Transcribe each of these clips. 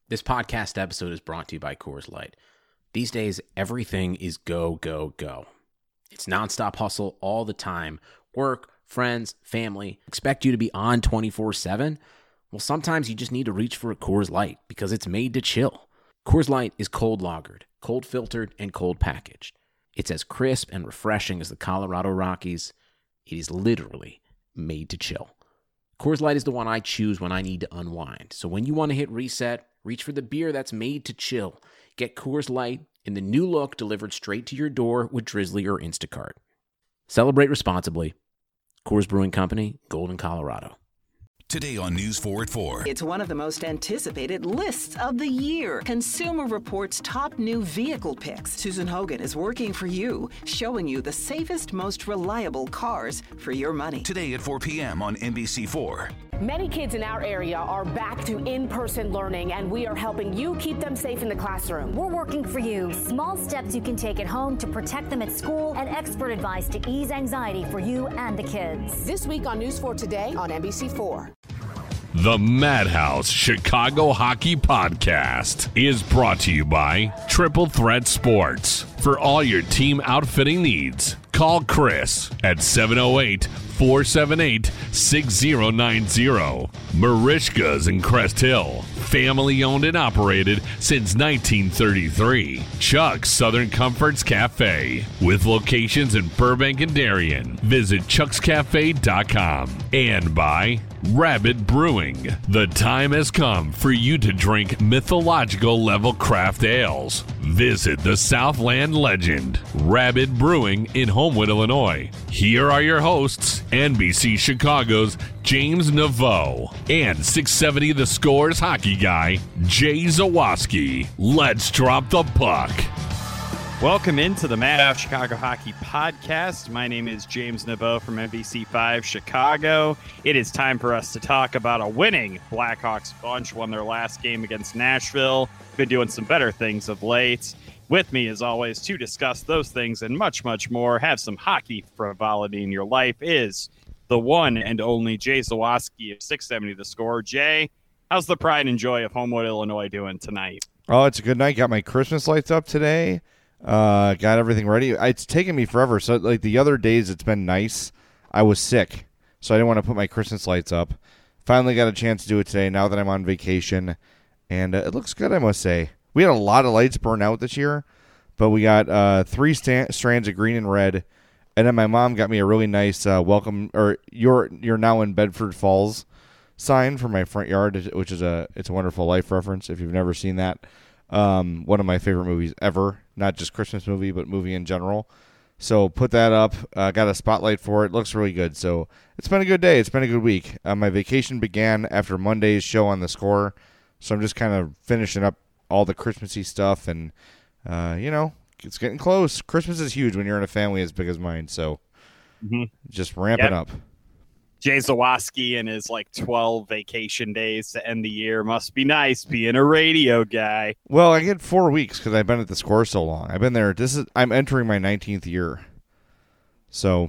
This podcast episode is brought to you by Coors Light. These days, everything is go, go, go. It's nonstop hustle all the time. Work, friends, family, expect you to be on 24/7. Well, sometimes you just need to reach for a Coors Light because it's made to chill. Coors Light is cold lagered, cold filtered, and cold packaged. It's as crisp and refreshing as the Colorado Rockies. It is literally made to chill. Coors Light is the one I choose when I need to unwind. So when you want to hit reset, reach for the beer that's made to chill. Get Coors Light in the new look delivered straight to your door with Drizzly or Instacart. Celebrate responsibly. Coors Brewing Company, Golden, Colorado. Today on News 4 at 4. It's one of the most anticipated lists of the year. Consumer Reports' top new vehicle picks. Susan Hogan is working for you, showing you the safest, most reliable cars for your money. Today at 4 p.m. on NBC4. Many kids in our area are back to in-person learning, and we are helping you keep them safe in the classroom. We're working for you. Small steps you can take at home to protect them at school, and expert advice to ease anxiety for you and the kids. This week on News 4 Today on NBC4. The Madhouse Chicago Hockey Podcast is brought to you by Triple Threat Sports. For all your team outfitting needs, call Chris at 708-478-6090. Marishka's in Crest Hill. Family owned and operated since 1933. Chuck's Southern Comforts Cafe. With locations in Burbank and Darien. Visit chuckscafe.com. And by Rabbit Brewing. The time has come for you to drink mythological level craft ales. Visit the Southland legend, Rabbit Brewing in Homewood, Illinois. Here are your hosts, NBC Chicago's James Naveau and 670 The Score's hockey guy, Jay Zawaski. Let's drop the puck. Welcome into the Madhouse Chicago Hockey Podcast. My name is James Naveau from NBC5 Chicago. It is time for us to talk about a winning Blackhawks bunch. Won their last game against Nashville. Been doing some better things of late. With me, as always, to discuss those things and much, much more, have some hockey frivolity in your life, is the one and only Jay Zawaski of 670 The Score. Jay, how's the pride and joy of Homewood, Illinois doing tonight? Oh, it's a good night. Got my Christmas lights up today. Got everything ready. It's taken me forever. So, like the other days, it's been nice. I was sick, so I didn't want to put my Christmas lights up. Finally got a chance to do it today now that I'm on vacation, and it looks good, I must say. We had a lot of lights burn out this year, but we got 3 strands of green and red, and then my mom got me a really nice welcome, or you're now in Bedford Falls sign for my front yard, which is it's a Wonderful Life reference if you've never seen that. One of my favorite movies ever, not just Christmas movie, but movie in general. So put that up, got a spotlight for it. Looks really good. So it's been a good day. It's been a good week. My vacation began after Monday's show on The Score. So I'm just kind of finishing up all the Christmassy stuff. And, it's getting close. Christmas is huge when you're in a family as big as mine. So just ramping up. Jay Zawaski and his 12 vacation days to end the year. Must be nice being a radio guy. Well, I get 4 weeks because I've been at The Score so long. I've been there. I'm entering my 19th year, so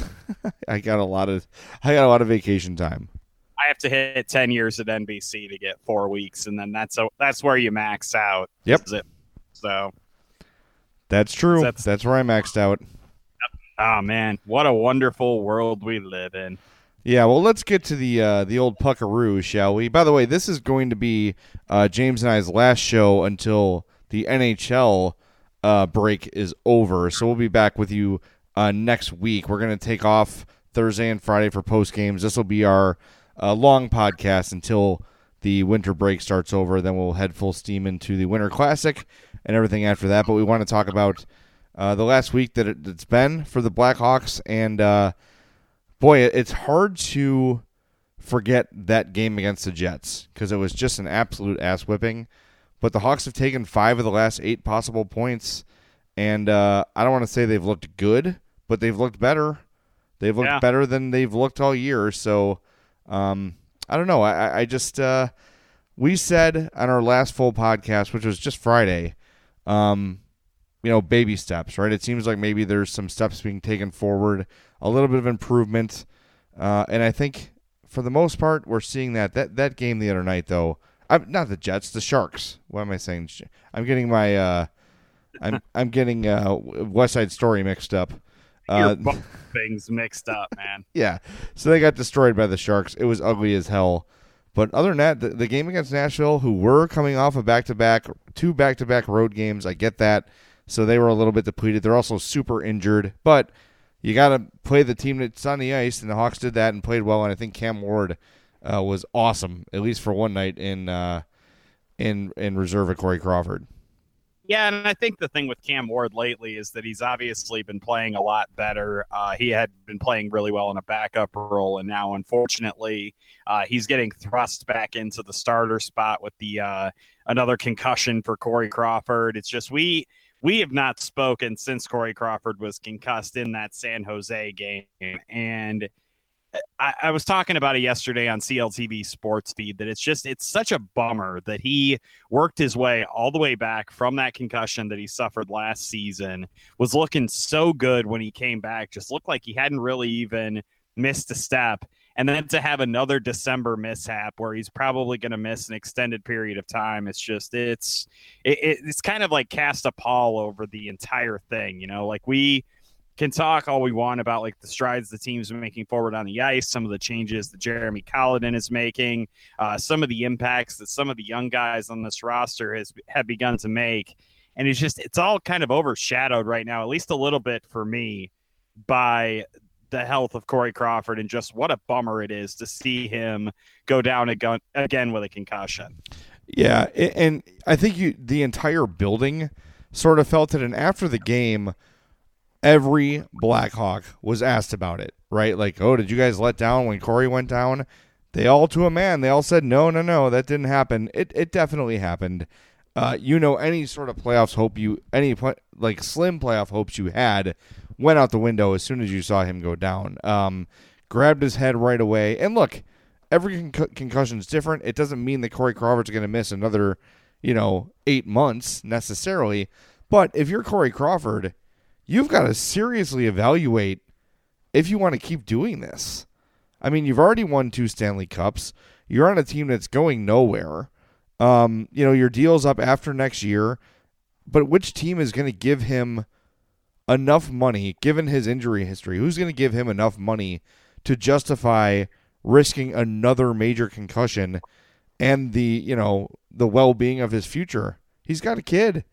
I got a lot of vacation time. I have to hit 10 years at NBC to get 4 weeks, and then that's where you max out. Yep. So that's true. That's where I maxed out. Oh man, what a wonderful world we live in. Yeah, well, let's get to the old puckaroo, shall we? By the way, this is going to be James and I's last show until the NHL break is over. So we'll be back with you next week. We're going to take off Thursday and Friday for post games. This will be our long podcast until the winter break starts over. Then we'll head full steam into the Winter Classic and everything after that. But we want to talk about the last week that it's been for the Blackhawks, and boy, it's hard to forget that game against the Jets because it was just an absolute ass-whipping. But the Hawks have taken 5 of the last 8 possible points, and I don't want to say they've looked good, but they've looked better. They've looked better than they've looked all year. So I don't know. I just we said on our last full podcast, which was just Friday, baby steps, right? It seems like maybe there's some steps being taken forward, a little bit of improvement. And I think for the most part, we're seeing that game the other night, though, not the Jets, the Sharks. What am I saying? I'm getting my I'm getting West Side Story mixed up. Your things mixed up, man. Yeah, so they got destroyed by the Sharks. It was ugly as hell. But other than that, the game against Nashville, who were coming off of two back-to-back road games, I get that. So they were a little bit depleted. They're also super injured. But you got to play the team that's on the ice, and the Hawks did that and played well. And I think Cam Ward was awesome, at least for one night in reserve of Corey Crawford. Yeah, and I think the thing with Cam Ward lately is that he's obviously been playing a lot better. He had been playing really well in a backup role, and now, unfortunately, he's getting thrust back into the starter spot with the another concussion for Corey Crawford. It's just we have not spoken since Corey Crawford was concussed in that San Jose game, and I was talking about it yesterday on CLTV Sports Feed that it's such a bummer that he worked his way all the way back from that concussion that he suffered last season, was looking so good when he came back, just looked like he hadn't really even missed a step. And then to have another December mishap where he's probably going to miss an extended period of time, it's kind of like cast a pall over the entire thing. You know, like we can talk all we want about like the strides the team's making forward on the ice, some of the changes that Jeremy Colliton is making, some of the impacts that some of the young guys on this roster have begun to make. And it's all kind of overshadowed right now, at least a little bit for me, by the health of Corey Crawford, and just what a bummer it is to see him go down again with a concussion. Yeah. And I think the entire building sort of felt it. And after the game, every Blackhawk was asked about it, right? Like, oh, did you guys let down when Corey went down? They all, to a man, they all said, no, that didn't happen. It definitely happened. Any sort of playoffs hope slim playoff hopes you had went out the window as soon as you saw him go down. Grabbed his head right away. And look, every concussion is different. It doesn't mean that Corey Crawford's going to miss another, 8 months necessarily. But if you're Corey Crawford, you've got to seriously evaluate if you want to keep doing this. I mean, you've already won 2 Stanley Cups. You're on a team that's going nowhere. Your deal's up after next year. But which team is going to give him enough money, given his injury history? Who's going to give him enough money to justify risking another major concussion and the well-being of his future? He's got a kid.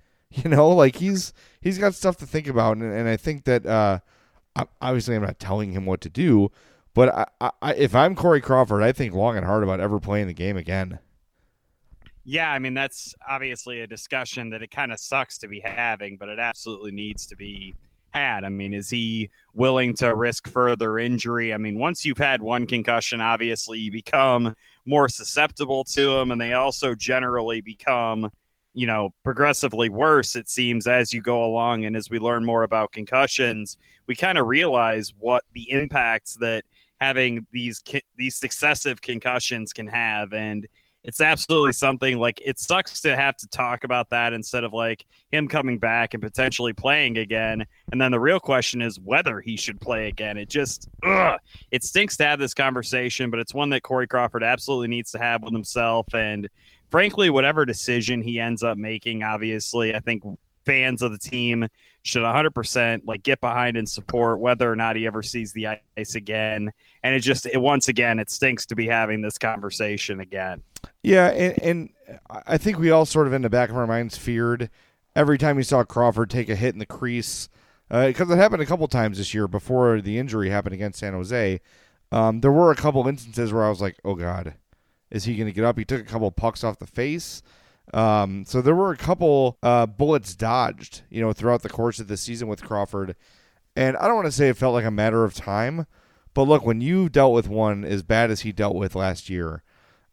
He's got stuff to think about, and I think that obviously I'm not telling him what to do, but I if I'm Corey Crawford, I think long and hard about ever playing the game again. Yeah, I mean, that's obviously a discussion that it kind of sucks to be having, but it absolutely needs to be had. I mean, is he willing to risk further injury? I mean, once you've had one concussion, obviously you become more susceptible to them, and they also generally become progressively worse, it seems, as you go along. And as we learn more about concussions, we kind of realize what the impacts that having these successive concussions can have. And it's absolutely something, like, it sucks to have to talk about that instead of like him coming back and potentially playing again. And then the real question is whether he should play again. It stinks to have this conversation, but it's one that Corey Crawford absolutely needs to have with himself. And frankly, whatever decision he ends up making, obviously, I think fans of the team should 100% get behind and support whether or not he ever sees the ice again. And it stinks to be having this conversation again. Yeah, and I think we all sort of in the back of our minds feared every time we saw Crawford take a hit in the crease, because it happened a couple times this year before the injury happened against San Jose. There were a couple instances where I was like, oh God, is he going to get up? He took a couple pucks off the face. So there were a couple bullets dodged, throughout the course of the season with Crawford. And I don't want to say it felt like a matter of time, but look, when you dealt with one as bad as he dealt with last year,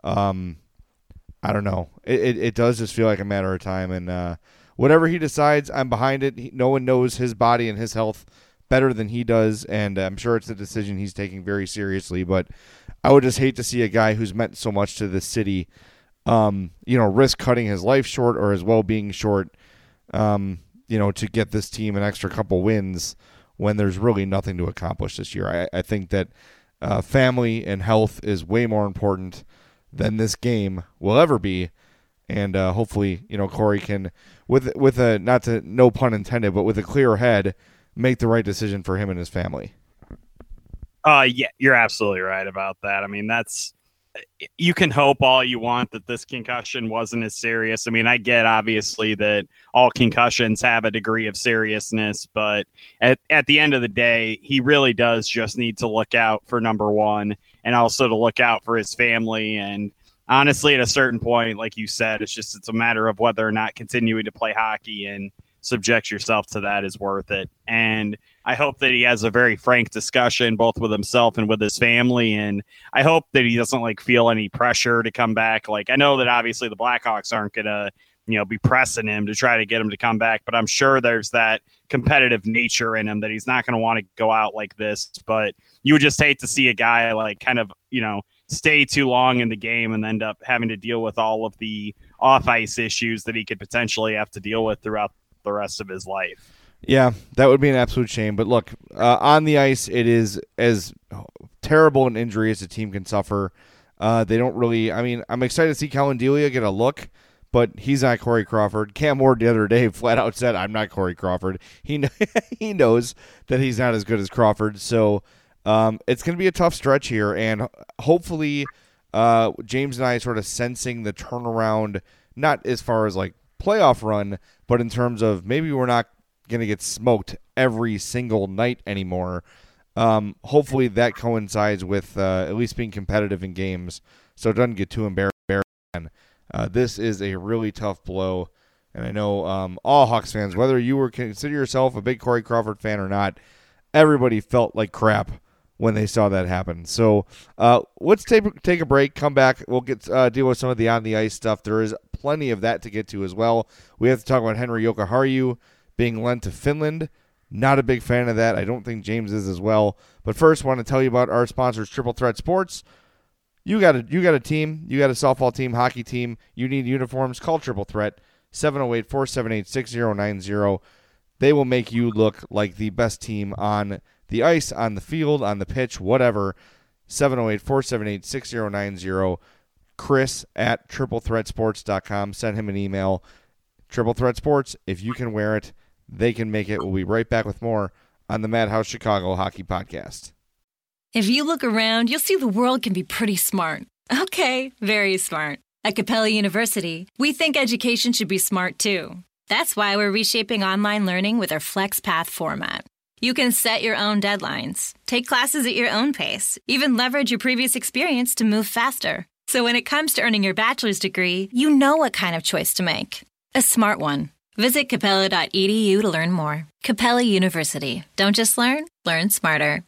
I don't know. It does just feel like a matter of time. And whatever he decides, I'm behind it. No one knows his body and his health better than he does, and I'm sure it's a decision he's taking very seriously. But I would just hate to see a guy who's meant so much to this city risk cutting his life short or his well-being short, to get this team an extra couple wins when there's really nothing to accomplish this year. I think that family and health is way more important than this game will ever be. And hopefully, Corey can, with a no pun intended, but with a clear head, make the right decision for him and his family. Yeah, you're absolutely right about that. I mean, you can hope all you want that this concussion wasn't as serious. I mean, I get obviously that all concussions have a degree of seriousness, but at the end of the day, he really does just need to look out for number one and also to look out for his family. And honestly, at a certain point, like you said, it's a matter of whether or not continuing to play hockey and subject yourself to that is worth it. And I hope that he has a very frank discussion both with himself and with his family. And I hope that he doesn't feel any pressure to come back. I know that obviously the Blackhawks aren't going to, be pressing him to try to get him to come back, but I'm sure there's that competitive nature in him that he's not going to want to go out like this. But you would just hate to see a guy stay too long in the game and end up having to deal with all of the off-ice issues that he could potentially have to deal with throughout the rest of his life. Yeah, that would be an absolute shame. But look, on the ice, it is as terrible an injury as a team can suffer. They don't really, I'm excited to see Colin Delia get a look, but he's not Corey Crawford. Cam Ward the other day flat out said, I'm not Corey Crawford. He knows that he's not as good as Crawford. So it's going to be a tough stretch here. And hopefully James and I sort of sensing the turnaround, not as far as playoff run, but in terms of maybe we're not going to get smoked every single night anymore. Hopefully that coincides with at least being competitive in games so it doesn't get too embarrassing. This is a really tough blow, and I know all Hawks fans, whether you consider yourself a big Corey Crawford fan or not, everybody felt like crap when they saw that happen. So let's take a break, come back. We'll get deal with some of the on-the-ice stuff. There is plenty of that to get to as well. We have to talk about Henri Jokiharju being lent to Finland. Not a big fan of that. I don't think James is as well. But first, I want to tell you about our sponsors, Triple Threat Sports. You got a team. You got a softball team, hockey team. You need uniforms. Call Triple Threat, 708-478-6090. They will make you look like the best team on the ice, on the field, on the pitch, whatever. 708-478-6090. Chris at triplethreatsports.com. Send him an email. Triple Threat Sports, if you can wear it, they can make it. We'll be right back with more on the Madhouse Chicago Hockey Podcast. If you look around, you'll see the world can be pretty smart. Okay, very smart. At Capella University, we think education should be smart too. That's why we're reshaping online learning with our FlexPath format. You can set your own deadlines, take classes at your own pace, even leverage your previous experience to move faster. So when it comes to earning your bachelor's degree, you know what kind of choice to make. A smart one. Visit capella.edu to learn more. Capella University. Don't just learn smarter.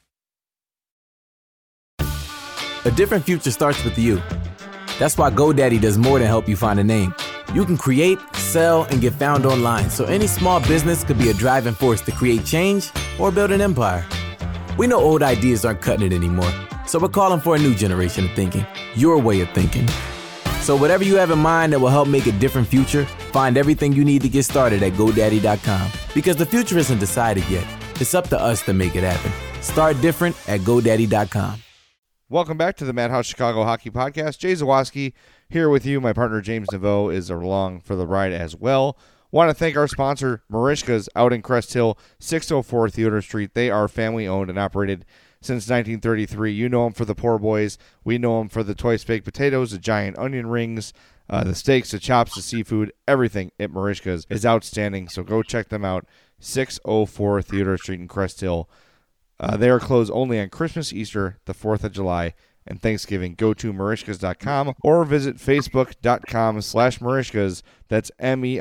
A different future starts with you. That's why GoDaddy does more than help you find a name. You can create, sell, and get found online, so any small business could be a driving force to create change or build an empire. We know old ideas aren't cutting it anymore, so we're calling for a new generation of thinking, your way of thinking. So whatever you have in mind that will help make a different future, find everything you need to get started at GoDaddy.com. Because the future isn't decided yet. It's up to us to make it happen. Start different at GoDaddy.com. Welcome back to the Madhouse Chicago Hockey Podcast. Jay Zawaski here with you. My partner James Naveau is along for the ride as well. Want to thank our sponsor, Marishka's, out in Crest Hill, 604 Theodore Street. They are family-owned and operated since 1933. You know them for the poor boys. We know them for the twice baked potatoes, the giant onion rings, the steaks, the chops, the seafood. Everything at Marishka's is outstanding, so go check them out. 604 Theodore Street in Crest Hill. They are closed only on Christmas, Easter, the 4th of July, and Thanksgiving. Go to Marishkas.com or visit Facebook.com/Marishkas. That's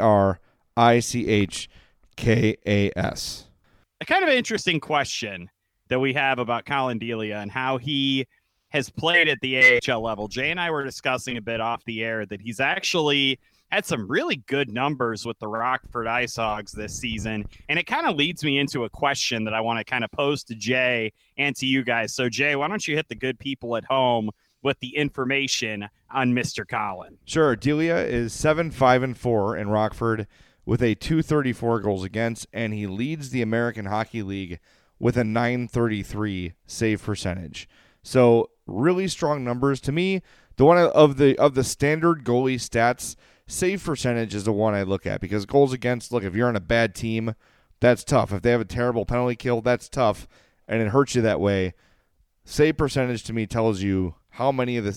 MERICHKAS. A kind of interesting question that we have about Colin Delia and how he has played at the AHL level. Jay and I were discussing a bit off the air that he's actually had some really good numbers with the Rockford Ice Hogs this season. And it kind of leads me into a question that I want to kind of pose to Jay and to you guys. So, Jay, why don't you hit the good people at home with the information on Mr. Colin? Sure. Delia is 7-5-4 in Rockford with a .234 goals against, and he leads the American Hockey League with a .933 save percentage. So really strong numbers. To me, The one of the standard goalie stats, save percentage is the one I look at, because goals against, look, if you're on a bad team, that's tough. If they have a terrible penalty kill, that's tough, and it hurts you that way. Save percentage to me tells you how many of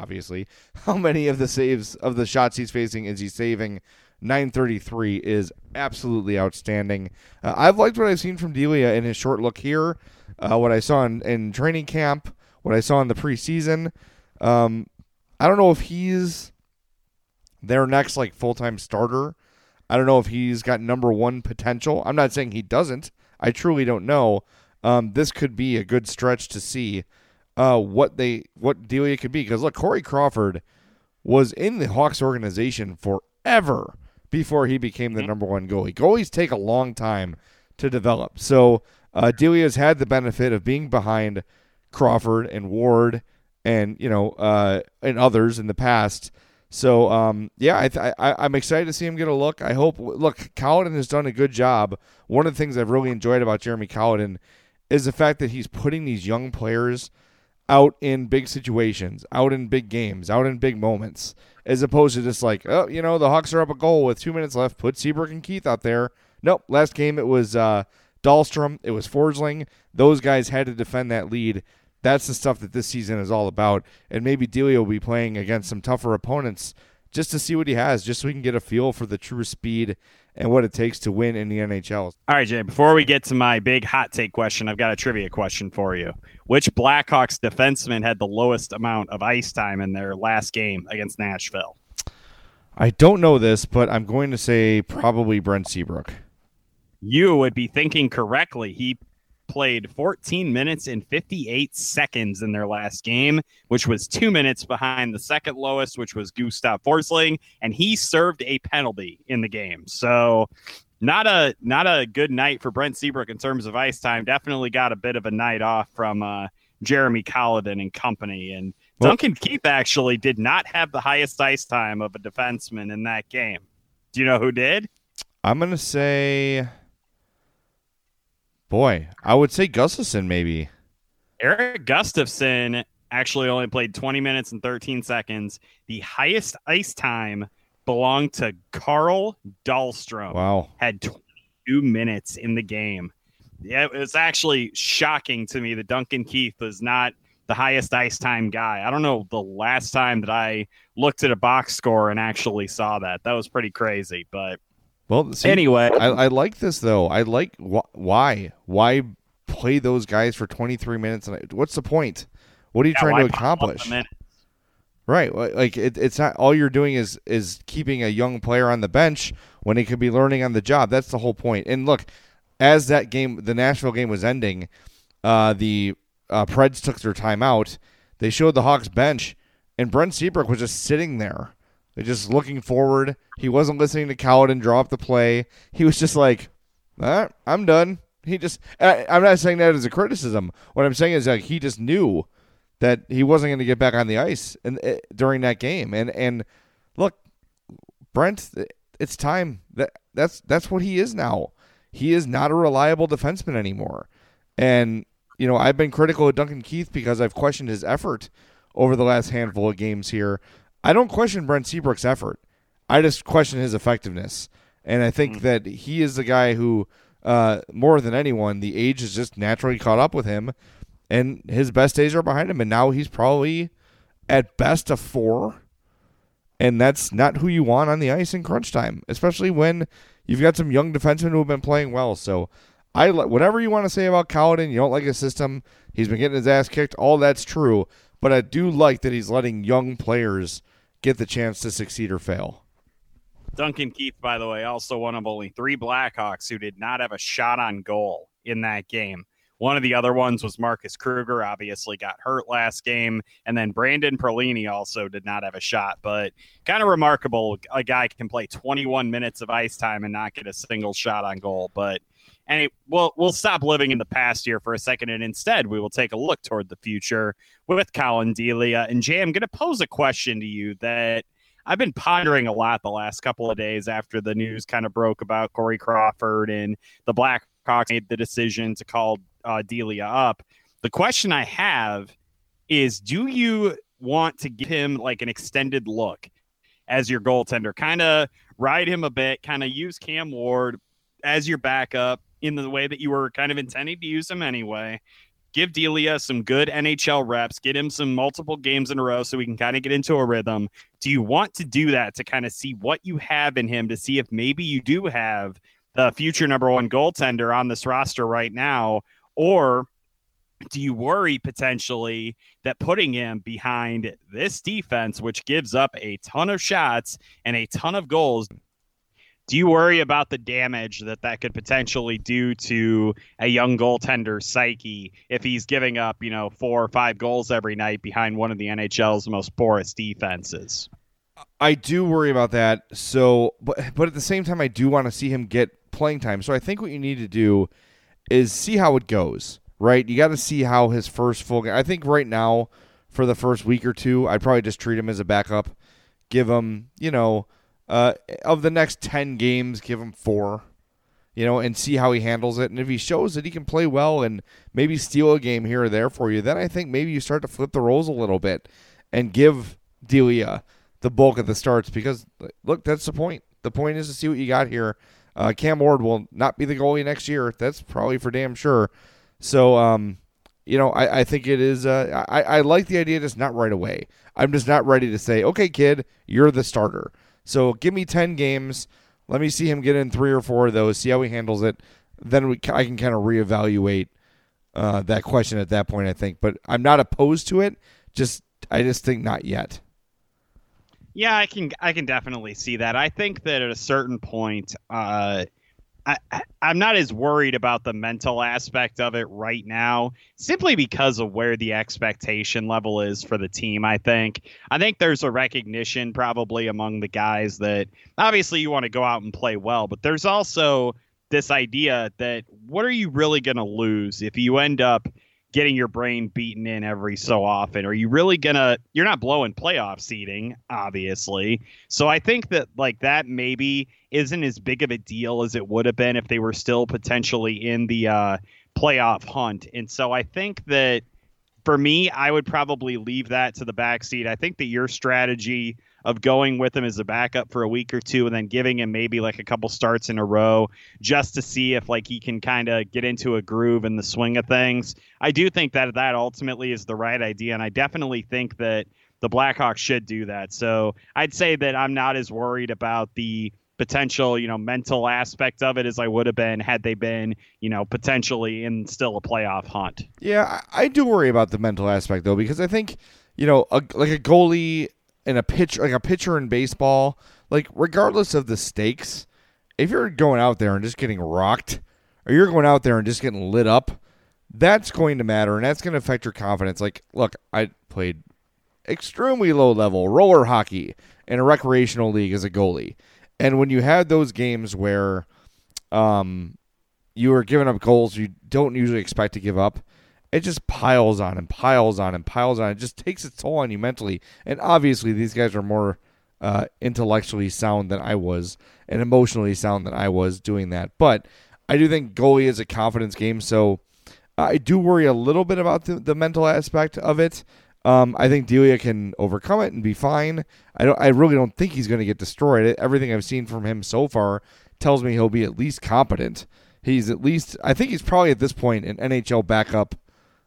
the saves of the shots he's facing is he saving. 933 is absolutely outstanding. I've liked what I've seen from Delia in his short look here, what I saw in training camp, what I saw in the preseason. I don't know if he's their next full-time starter. I don't know if he's got number one potential. I'm not saying he doesn't. I truly don't know. This could be a good stretch to see what Delia could be. Because look, Corey Crawford was in the Hawks organization forever before he became the number one goalie. Goalies take a long time to develop. So Delia's had the benefit of being behind Crawford and Ward and and others in the past. So I'm excited to see him get a look. I hope. Look, Colliton has done a good job. One of the things I've really enjoyed about Jeremy Colliton is the fact that he's putting these young players out in big situations, out in big games, out in big moments, as opposed to just the Hawks are up a goal with 2 minutes left, put Seabrook and Keith out there. Nope, last game it was Dahlstrom, it was Forsling. Those guys had to defend that lead. That's the stuff that this season is all about, and maybe Delia will be playing against some tougher opponents just to see what he has, just so we can get a feel for the true speed and what it takes to win in the NHL. All right, Jay, before we get to my big hot take question, I've got a trivia question for you. Which Blackhawks defenseman had the lowest amount of ice time in their last game against Nashville? I don't know this, but I'm going to say probably Brent Seabrook. You would be thinking correctly. He played 14 minutes and 58 seconds in their last game, which was 2 minutes behind the second lowest, which was Gustav Forsling, and he served a penalty in the game. So not a good night for Brent Seabrook in terms of ice time. Definitely got a bit of a night off from Jeremy Colliton and company. And Duncan Keith actually did not have the highest ice time of a defenseman in that game. Do you know who did? I'm going to say... Boy, I would say Gustafsson maybe. Eric Gustafsson actually only played 20 minutes and 13 seconds. The highest ice time belonged to Carl Dahlstrom. Wow. Had 22 minutes in the game. Yeah, it was actually shocking to me that Duncan Keith was not the highest ice time guy. I don't know the last time that I looked at a box score and actually saw that. That was pretty crazy, but... Well, see, anyway, I like this though. I like why play those guys for 23 minutes? What's the point? What are you trying to accomplish? Right, it's not all you're doing is keeping a young player on the bench when he could be learning on the job. That's the whole point. And look, as that game, the Nashville game was ending, the Preds took their timeout. They showed the Hawks bench, and Brent Seabrook was just sitting there. They're just looking forward. He wasn't listening to Colliton draw up the play. He was just like, I'm done. I'm not saying that as a criticism. What I'm saying is he just knew that he wasn't going to get back on the ice during that game. And look, Brent, it's time. That's what he is now. He is not a reliable defenseman anymore. And, I've been critical of Duncan Keith because I've questioned his effort over the last handful of games here. I don't question Brent Seabrook's effort. I just question his effectiveness. And I think that he is the guy who, more than anyone, the age has just naturally caught up with him, and his best days are behind him. And now he's probably at best a 4, and that's not who you want on the ice in crunch time, especially when you've got some young defensemen who have been playing well. So whatever you want to say about Colliton, you don't like his system, he's been getting his ass kicked, all that's true. But I do like that he's letting young players get the chance to succeed or fail. Duncan Keith, by the way, also one of only 3 Blackhawks who did not have a shot on goal in that game. One of the other ones was Marcus Kruger, obviously got hurt last game. And then Brandon Perlini also did not have a shot. But kind of remarkable, a guy can play 21 minutes of ice time and not get a single shot on goal. But we'll stop living in the past here for a second, and instead we will take a look toward the future with Collin Delia. And Jay, I'm going to pose a question to you that I've been pondering a lot the last couple of days after the news kind of broke about Corey Crawford and the Blackhawks made the decision to call Delia up. The question I have is, do you want to give him like an extended look as your goaltender, kind of ride him a bit, kind of use Cam Ward as your backup in the way that you were kind of intending to use him anyway. Give Delia some good NHL reps, get him some multiple games in a row so we can kind of get into a rhythm. Do you want to do that to kind of see what you have in him, to see if maybe you do have the future number one goaltender on this roster right now? Or do you worry potentially that putting him behind this defense, which gives up a ton of shots and a ton of goals, do you worry about the damage that could potentially do to a young goaltender's psyche if he's giving up, 4 or 5 goals every night behind one of the NHL's most porous defenses? I do worry about that. So, but at the same time, I do want to see him get playing time. So I think what you need to do is see how it goes, right? You got to see how his first full game. I think right now, for the first week or two, I'd probably just treat him as a backup. Give him, of the next 10 games, give him 4, and see how he handles it. And if he shows that he can play well and maybe steal a game here or there for you, then I think maybe you start to flip the roles a little bit and give Delia the bulk of the starts, because, look, that's the point. The point is to see what you got here. Cam Ward will not be the goalie next year. That's probably for damn sure. So, I think it is I like the idea, just not right away. I'm just not ready to say, okay, kid, you're the starter. So give me 10 games. Let me see him get in 3 or 4 of those, see how he handles it. Then I can kind of reevaluate that question at that point, I think. But I'm not opposed to it. I just think not yet. Yeah, I can definitely see that. I think that at a certain point, I'm not as worried about the mental aspect of it right now, simply because of where the expectation level is for the team. I think there's a recognition probably among the guys that obviously you want to go out and play well, but there's also this idea that what are you really going to lose if you end up getting your brain beaten in every so often? Are you really you're not blowing playoff seeding, obviously. So I think that that maybe isn't as big of a deal as it would have been if they were still potentially in the playoff hunt. And so I think that for me, I would probably leave that to the backseat. I think that your strategy of going with him as a backup for a week or two and then giving him maybe a couple starts in a row just to see if he can kind of get into a groove in the swing of things, I do think that ultimately is the right idea. And I definitely think that the Blackhawks should do that. So I'd say that I'm not as worried about the potential, mental aspect of it as I would have been had they been, potentially in still a playoff hunt. Yeah, I do worry about the mental aspect though, because I think, a goalie and a pitcher in baseball, regardless of the stakes, if you're going out there and just getting rocked, or you're going out there and just getting lit up, that's going to matter, and that's going to affect your confidence. Look, I played extremely low-level roller hockey in a recreational league as a goalie, and when you have those games where you are giving up goals you don't usually expect to give up, it just piles on and piles on and piles on. It just takes its toll on you mentally. And obviously, these guys are more intellectually sound than I was and emotionally sound than I was doing that. But I do think goalie is a confidence game, so I do worry a little bit about the mental aspect of it. I think Delia can overcome it and be fine. I really don't think he's going to get destroyed. Everything I've seen from him so far tells me he'll be at least competent. I think he's probably at this point an NHL backup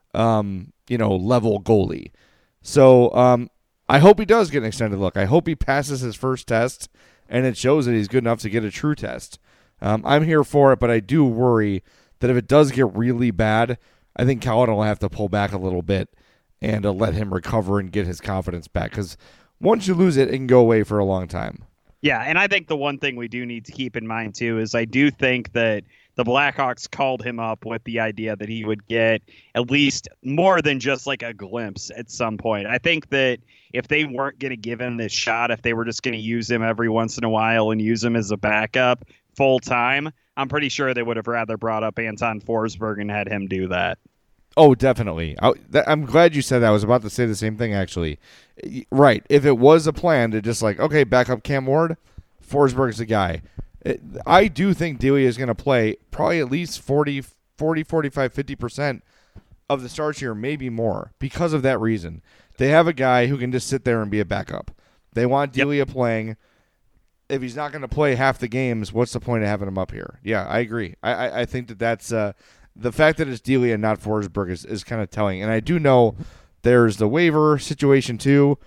level goalie. So I hope he does get an extended look. I hope he passes his first test and it shows that he's good enough to get a true test. I'm here for it, but I do worry that if it does get really bad, I think Colin will have to pull back a little bit and let him recover and get his confidence back. Because once you lose it, it can go away for a long time. Yeah, and I think the one thing we do need to keep in mind, too, is I do think that the Blackhawks called him up with the idea that he would get at least more than just like a glimpse at some point. I think that if they weren't going to give him this shot, if they were just going to use him every once in a while and use him as a backup full time, I'm pretty sure they would have rather brought up Anton Forsberg and had him do that. Oh, definitely. I'm glad you said that. I was about to say the same thing, actually. Right. If it was a plan to just okay, back up Cam Ward, Forsberg's the guy. I do think Delia is going to play probably at least 40, 45, 50% of the starts here, maybe more, because of that reason. They have a guy who can just sit there and be a backup. They want Delia playing. If he's not going to play half the games, what's the point of having him up here? Yeah, I agree. I think that's the fact that it's Delia and not Forsberg is kind of telling. And I do know there's the waiver situation too.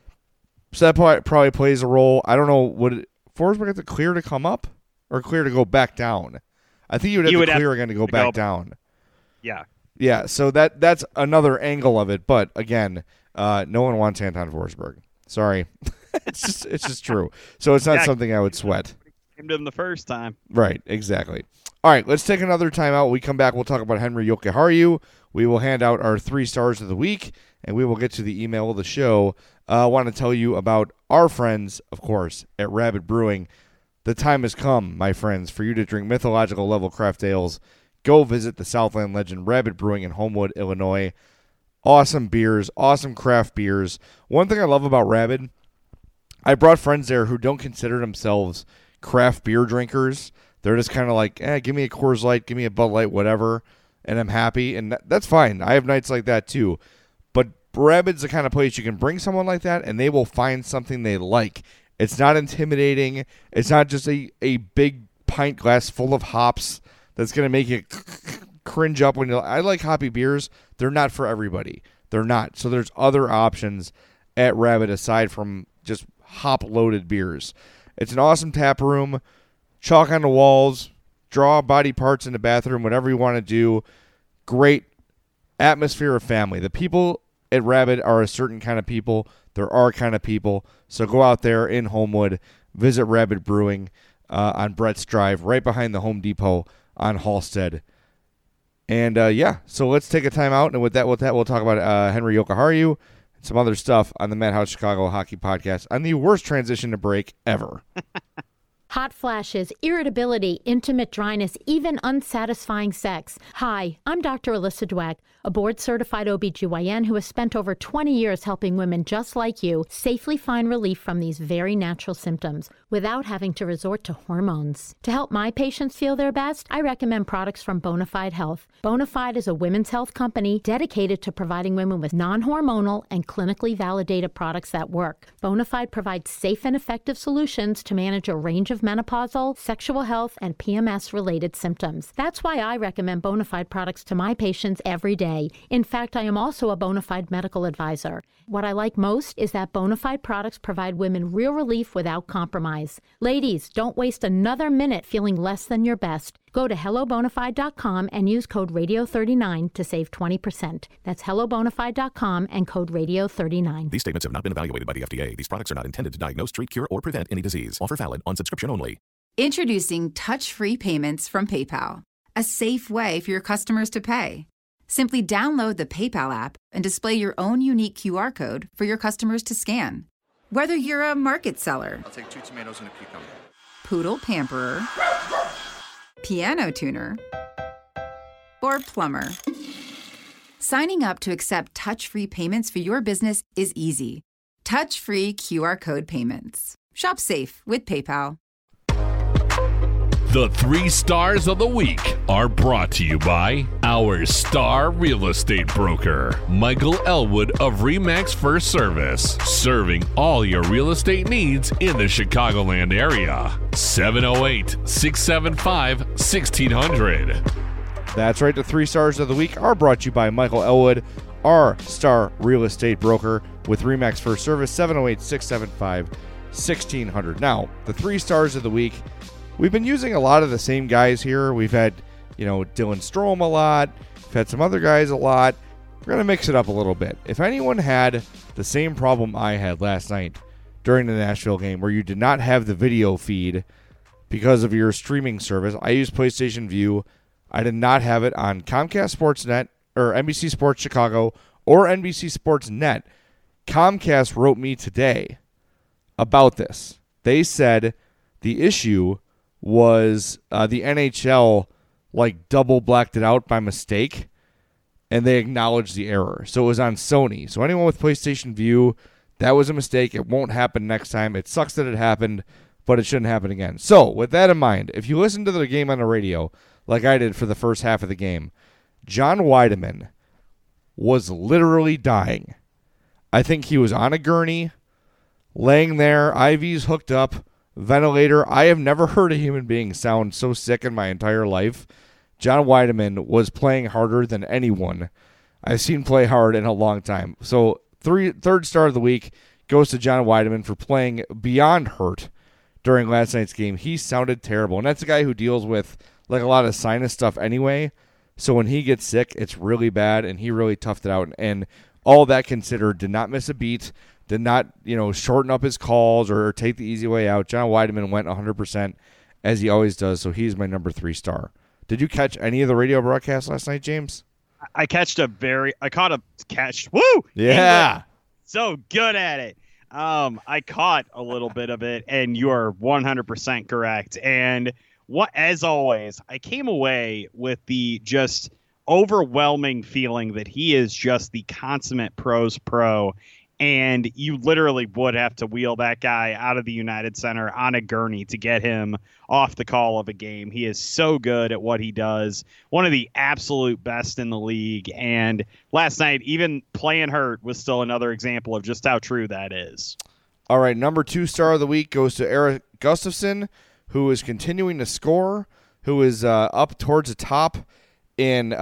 So that probably plays a role. I don't know. Would Forsberg have to clear to come up or clear to go back down? I think you would have to clear again to go back down. Yeah. Yeah, so that's another angle of it. But again, no one wants Anton Forsberg. Sorry. it's just true. So it's not something I would sweat. Came to him the first time. Right, exactly. All right, let's take another timeout. When we come back, we'll talk about Henry Jokiharju. We will hand out our 3 stars of the week, and we will get to the email of the show. I want to tell you about our friends, of course, at Rabbit Brewing. The time has come, my friends, for you to drink mythological level craft ales. Go visit the Southland legend Rabbit Brewing in Homewood, Illinois. Awesome beers, awesome craft beers. One thing I love about Rabbit, I brought friends there who don't consider themselves craft beer drinkers. They're just kind of like, give me a Coors Light, give me a Bud Light, whatever, and I'm happy. And that's fine. I have nights like that too. But Rabbit's the kind of place you can bring someone like that, and they will find something they like. It's not intimidating. It's not just a big pint glass full of hops that's going to make you cringe up when you. I like hoppy beers. They're not for everybody. They're not. So there's other options at Rabbit aside from just hop-loaded beers. It's an awesome tap room. Chalk on the walls. Draw body parts in the bathroom. Whatever you want to do. Great atmosphere of family. The people at Rabbit are a certain kind of people. They're our kind of people. So go out there in Homewood. Visit Rabbit Brewing on Brett's Drive, right behind the Home Depot on Halstead. And, so let's take a time out. And with that, we'll talk about Henry Jokiharju and some other stuff on the Madhouse Chicago Hockey Podcast on the worst transition to break ever. Hot flashes, irritability, intimate dryness, even unsatisfying sex. Hi, I'm Dr. Alyssa Dweck, a board-certified OBGYN who has spent over 20 years helping women just like you safely find relief from these very natural symptoms without having to resort to hormones. To help my patients feel their best, I recommend products from Bonafide Health. Bonafide is a women's health company dedicated to providing women with non-hormonal and clinically validated products that work. Bonafide provides safe and effective solutions to manage a range of menopausal, sexual health, and PMS-related symptoms. That's why I recommend Bonafide products to my patients every day. In fact, I am also a Bonafide medical advisor. What I like most is that Bonafide products provide women real relief without compromise. Ladies, don't waste another minute feeling less than your best. Go to hellobonafide.com and use code radio39 to save 20%. That's hellobonafide.com and code radio39. These statements have not been evaluated by the FDA. These products are not intended to diagnose, treat, cure, or prevent any disease. Offer valid on subscription only. Introducing touch-free payments from PayPal, a safe way for your customers to pay. Simply download the PayPal app and display your own unique QR code for your customers to scan. Whether you're a market seller, I'll take 2 tomatoes and a cucumber, poodle pamperer, piano tuner, or plumber. Signing up to accept touch-free payments for your business is easy. Touch-free QR code payments. Shop safe with PayPal. The 3 stars of the week are brought to you by our star real estate broker, Michael Elwood of RE/MAX First Service, serving all your real estate needs in the Chicagoland area. 708-675-1600. That's right. The 3 stars of the week are brought to you by Michael Elwood, our star real estate broker with RE/MAX First Service, 708-675-1600. Now, the 3 stars of the week. We've been using a lot of the same guys here. We've had, Dylan Strome a lot. We've had some other guys a lot. We're going to mix it up a little bit. If anyone had the same problem I had last night during the Nashville game where you did not have the video feed because of your streaming service, I use PlayStation View. I did not have it on Comcast Sportsnet or NBC Sports Chicago or NBC Sports Net. Comcast wrote me today about this. They said the issue was the NHL double blacked it out by mistake, and they acknowledged the error. So it was on Sony. So anyone with PlayStation View, that was a mistake. It won't happen next time. It sucks that it happened, but it shouldn't happen again. So with that in mind, if you listen to the game on the radio, like I did for the first half of the game, John Weideman was literally dying. I think he was on a gurney, laying there, IVs hooked up, ventilator. I have never heard a human being sound so sick in my entire life. John Weideman was playing harder than anyone I've seen play hard in a long time. So third star of the week goes to John Weideman for playing beyond hurt during last night's game. He sounded terrible. And that's a guy who deals with like a lot of sinus stuff anyway. So when he gets sick, it's really bad, and he really toughed it out. And all that considered, did not miss a beat, did not, shorten up his calls or take the easy way out. John Weideman went 100% as he always does, so he's my number 3 star. Did you catch any of the radio broadcast last night, James? I caught a catch. Woo! Yeah. English. So good at it. I caught a little bit of it, and you are 100% correct. And as always, I came away with the just overwhelming feeling that he is just the consummate pros pro. And you literally would have to wheel that guy out of the United Center on a gurney to get him off the call of a game. He is so good at what he does. One of the absolute best in the league. And last night, even playing hurt was still another example of just how true that is. All right, number 2 star of the week goes to Erik Gustafsson, who is continuing to score, who is up towards the top in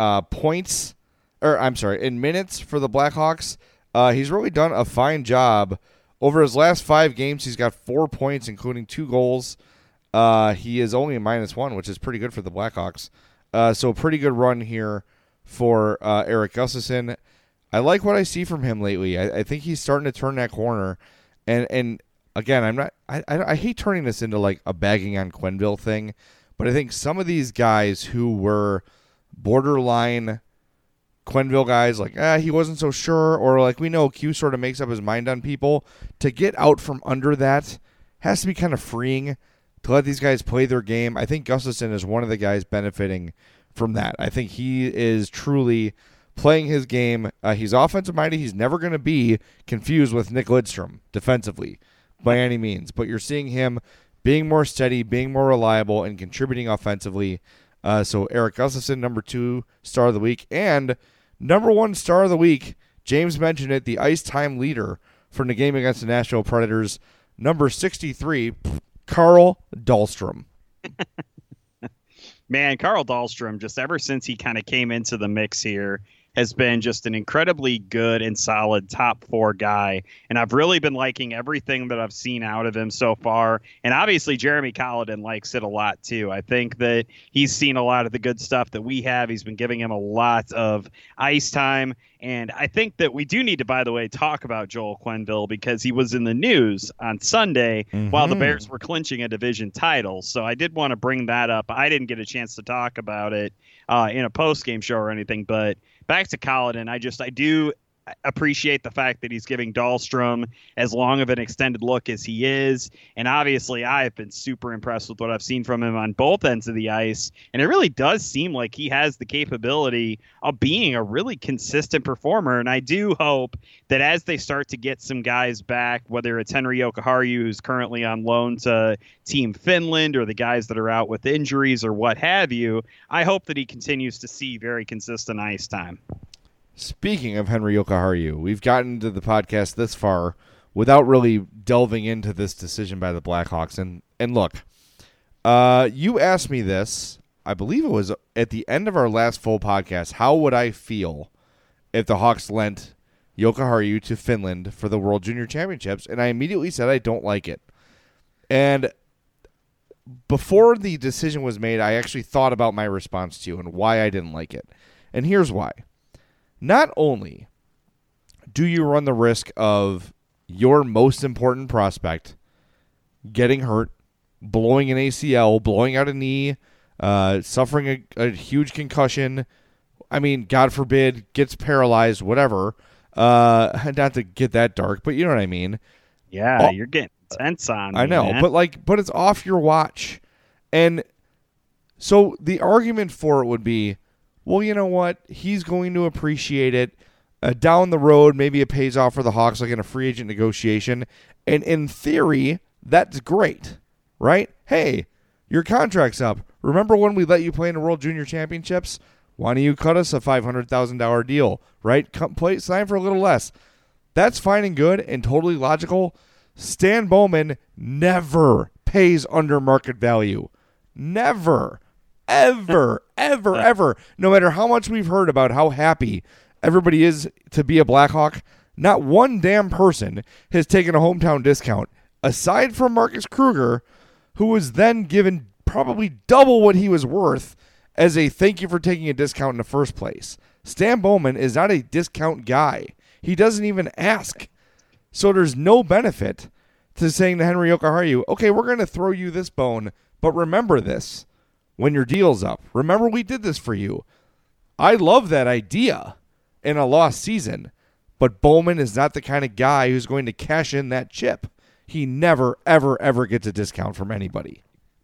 in minutes for the Blackhawks. He's really done a fine job. Over his last 5 games, he's got 4 points, including 2 goals. He is only a -1, which is pretty good for the Blackhawks. So a pretty good run here for Erik Gustafsson. I like what I see from him lately. I think he's starting to turn that corner. And again, I hate turning this into like a bagging on Quenneville thing, but I think some of these guys who were borderline Quenneville guys, like, he wasn't so sure, or like we know Q sort of makes up his mind on people, to get out from under that has to be kind of freeing to let these guys play their game. I think Gustafsson is one of the guys benefiting from that. I think he is truly playing his game. He's offensive minded. He's never going to be confused with Nick Lidstrom defensively by any means, but you're seeing him being more steady, being more reliable, and contributing offensively. So Erik Gustafsson, number 2 star of the week. And number 1 star of the week, James mentioned it, the ice time leader from the game against the Nashville Predators, number 63, Carl Dahlstrom. Man, Carl Dahlstrom, just ever since he kind of came into the mix here, has been just an incredibly good and solid top 4 guy. And I've really been liking everything that I've seen out of him so far. And obviously Jeremy Colliton likes it a lot too. I think that he's seen a lot of the good stuff that we have. He's been giving him a lot of ice time. And I think that we do need to, by the way, talk about Joel Quenneville, because he was in the news on Sunday while the Bears were clinching a division title. So I did want to bring that up. I didn't get a chance to talk about it in a post-game show or anything, but back to Colliton, I do appreciate the fact that he's giving Dahlstrom as long of an extended look as he is. And obviously, I've been super impressed with what I've seen from him on both ends of the ice. And it really does seem like he has the capability of being a really consistent performer. And I do hope that as they start to get some guys back, whether it's Henri Jokiharju, who's currently on loan to Team Finland, or the guys that are out with injuries or what have you, I hope that he continues to see very consistent ice time. Speaking of Henri Jokiharju, we've gotten to the podcast this far without really delving into this decision by the Blackhawks. And look, you asked me this, I believe it was at the end of our last full podcast, how would I feel if the Hawks lent Jokiharju to Finland for the World Junior Championships? And I immediately said I don't like it. And before the decision was made, I actually thought about my response to you and why I didn't like it. And here's why. Not only do you run the risk of your most important prospect getting hurt, blowing an ACL, blowing out a knee, suffering a huge concussion, I mean, God forbid, gets paralyzed, whatever. Not to get that dark, but you know what I mean. Yeah, you're getting tense on me, I know, man. but it's off your watch. And so the argument for it would be, well, you know what? He's going to appreciate it. Down the road, maybe it pays off for the Hawks, like in a free agent negotiation. And in theory, that's great, right? Hey, your contract's up. Remember when we let you play in the World Junior Championships? Why don't you cut us a $500,000 deal, right? Come play, sign for a little less. That's fine and good and totally logical. Stan Bowman never pays under market value. Never. Ever, ever, ever. No matter how much we've heard about how happy everybody is to be a Blackhawk, not one damn person has taken a hometown discount, aside from Marcus Kruger, who was then given probably double what he was worth as a thank you for taking a discount in the first place. Stan Bowman is not a discount guy. He doesn't even ask. So there's no benefit to saying to Henry Jokiharju, okay, we're going to throw you this bone, but remember this when your deal's up. Remember we did this for you. I love that idea in a lost season, but Bowman is not the kind of guy who's going to cash in that chip. He never, ever, ever gets a discount from anybody.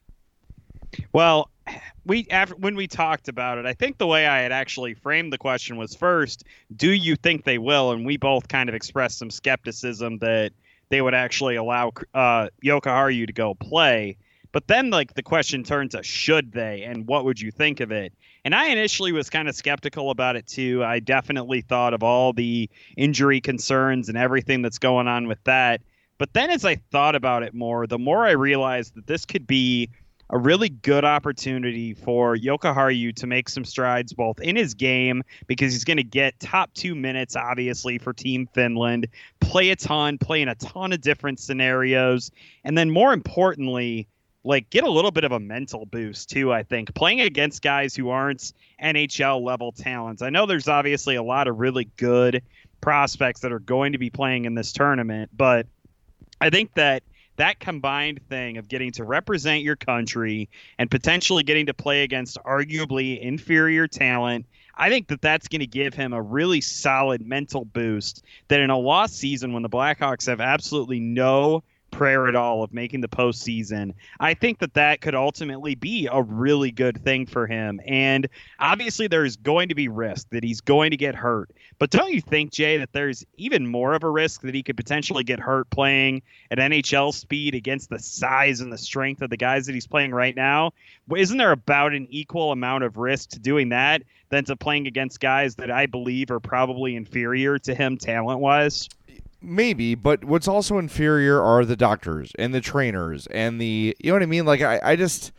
Well, when we talked about it, I think the way I had actually framed the question was, first, do you think they will? And we both kind of expressed some skepticism that they would actually allow Jokiharju to go play. But then, like, the question turned to should they, and what would you think of it? And I initially was kind of skeptical about it, too. I definitely thought of all the injury concerns and everything that's going on with that. But then as I thought about it more, the more I realized that this could be a really good opportunity for Jokiharju to make some strides both in his game, because he's going to get top 2 minutes, obviously, for Team Finland, play a ton, play in a ton of different scenarios, and then more importantly, like, get a little bit of a mental boost, too, I think, playing against guys who aren't NHL-level talents. I know there's obviously a lot of really good prospects that are going to be playing in this tournament, but I think that combined thing of getting to represent your country and potentially getting to play against arguably inferior talent, I think that that's going to give him a really solid mental boost that in a lost season when the Blackhawks have absolutely no prayer at all of making the postseason, I think that could ultimately be a really good thing for him. And obviously there's going to be risk that he's going to get hurt. But don't you think, Jay, that there's even more of a risk that he could potentially get hurt playing at NHL speed against the size and the strength of the guys that he's playing right now? Isn't there about an equal amount of risk to doing that than to playing against guys that I believe are probably inferior to him talent-wise? Maybe, but what's also inferior are the doctors and the trainers and the, you know what I mean? Like, I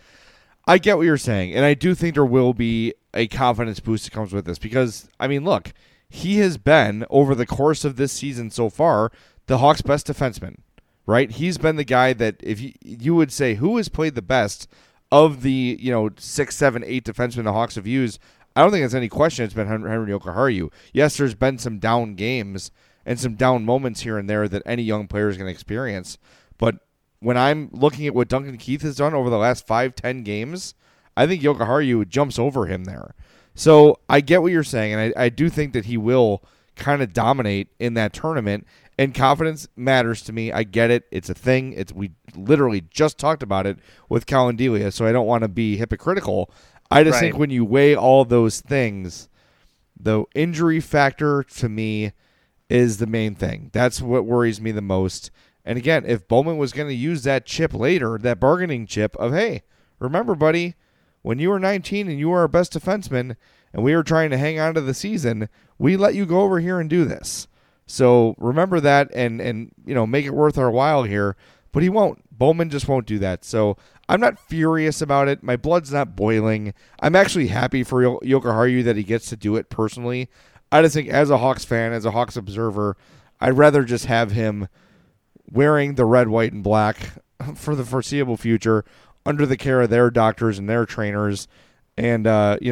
get what you're saying, and I do think there will be a confidence boost that comes with this because, I mean, look, he has been, over the course of this season so far, the Hawks' best defenseman, right? He's been the guy that, if you would say who has played the best of the, 6, 7, 8 defensemen the Hawks have used, I don't think there's any question it's been Henry Jokiharju. Yes, there's been some down games and some down moments here and there that any young player is going to experience. But when I'm looking at what Duncan Keith has done over the last 5-10 games, I think Jokiharju jumps over him there. So I get what you're saying, and I do think that he will kind of dominate in that tournament, and confidence matters to me. I get it. It's a thing. We literally just talked about it with Colin Delia, so I don't want to be hypocritical. I just think when you weigh all those things, the injury factor to me is the main thing. That's what worries me the most. And again, if Bowman was going to use that chip later, that bargaining chip of, hey, remember, buddy, when you were 19 and you were our best defenseman and we were trying to hang on to the season, we let you go over here and do this. So remember that and make it worth our while here. But he won't. Bowman just won't do that. So I'm not furious about it. My blood's not boiling. I'm actually happy for Jokiharju that he gets to do it personally. I just think as a Hawks fan, as a Hawks observer, I'd rather just have him wearing the red, white, and black for the foreseeable future under the care of their doctors and their trainers and,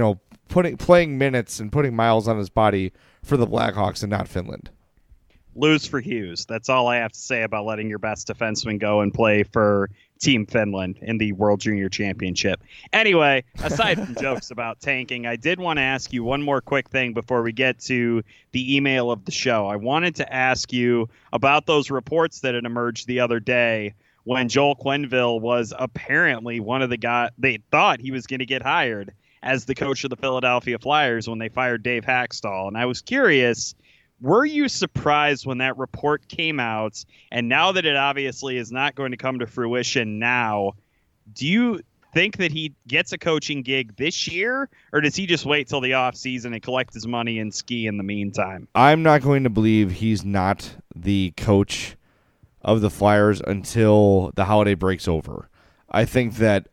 playing minutes and putting miles on his body for the Blackhawks and not Finland. Lose for Hughes. That's all I have to say about letting your best defenseman go and play for Team Finland in the World Junior Championship. Anyway, aside from jokes about tanking, I did want to ask you one more quick thing before we get to the email of the show. I wanted to ask you about those reports that had emerged the other day when Joel Quenneville was apparently one of the guys they thought he was going to get hired as the coach of the Philadelphia Flyers when they fired Dave Haxtell. And I was curious, were you surprised when that report came out? And now that it obviously is not going to come to fruition now, do you think that he gets a coaching gig this year, or does he just wait till the offseason and collect his money and ski in the meantime? I'm not going to believe he's not the coach of the Flyers until the holiday breaks over. I think that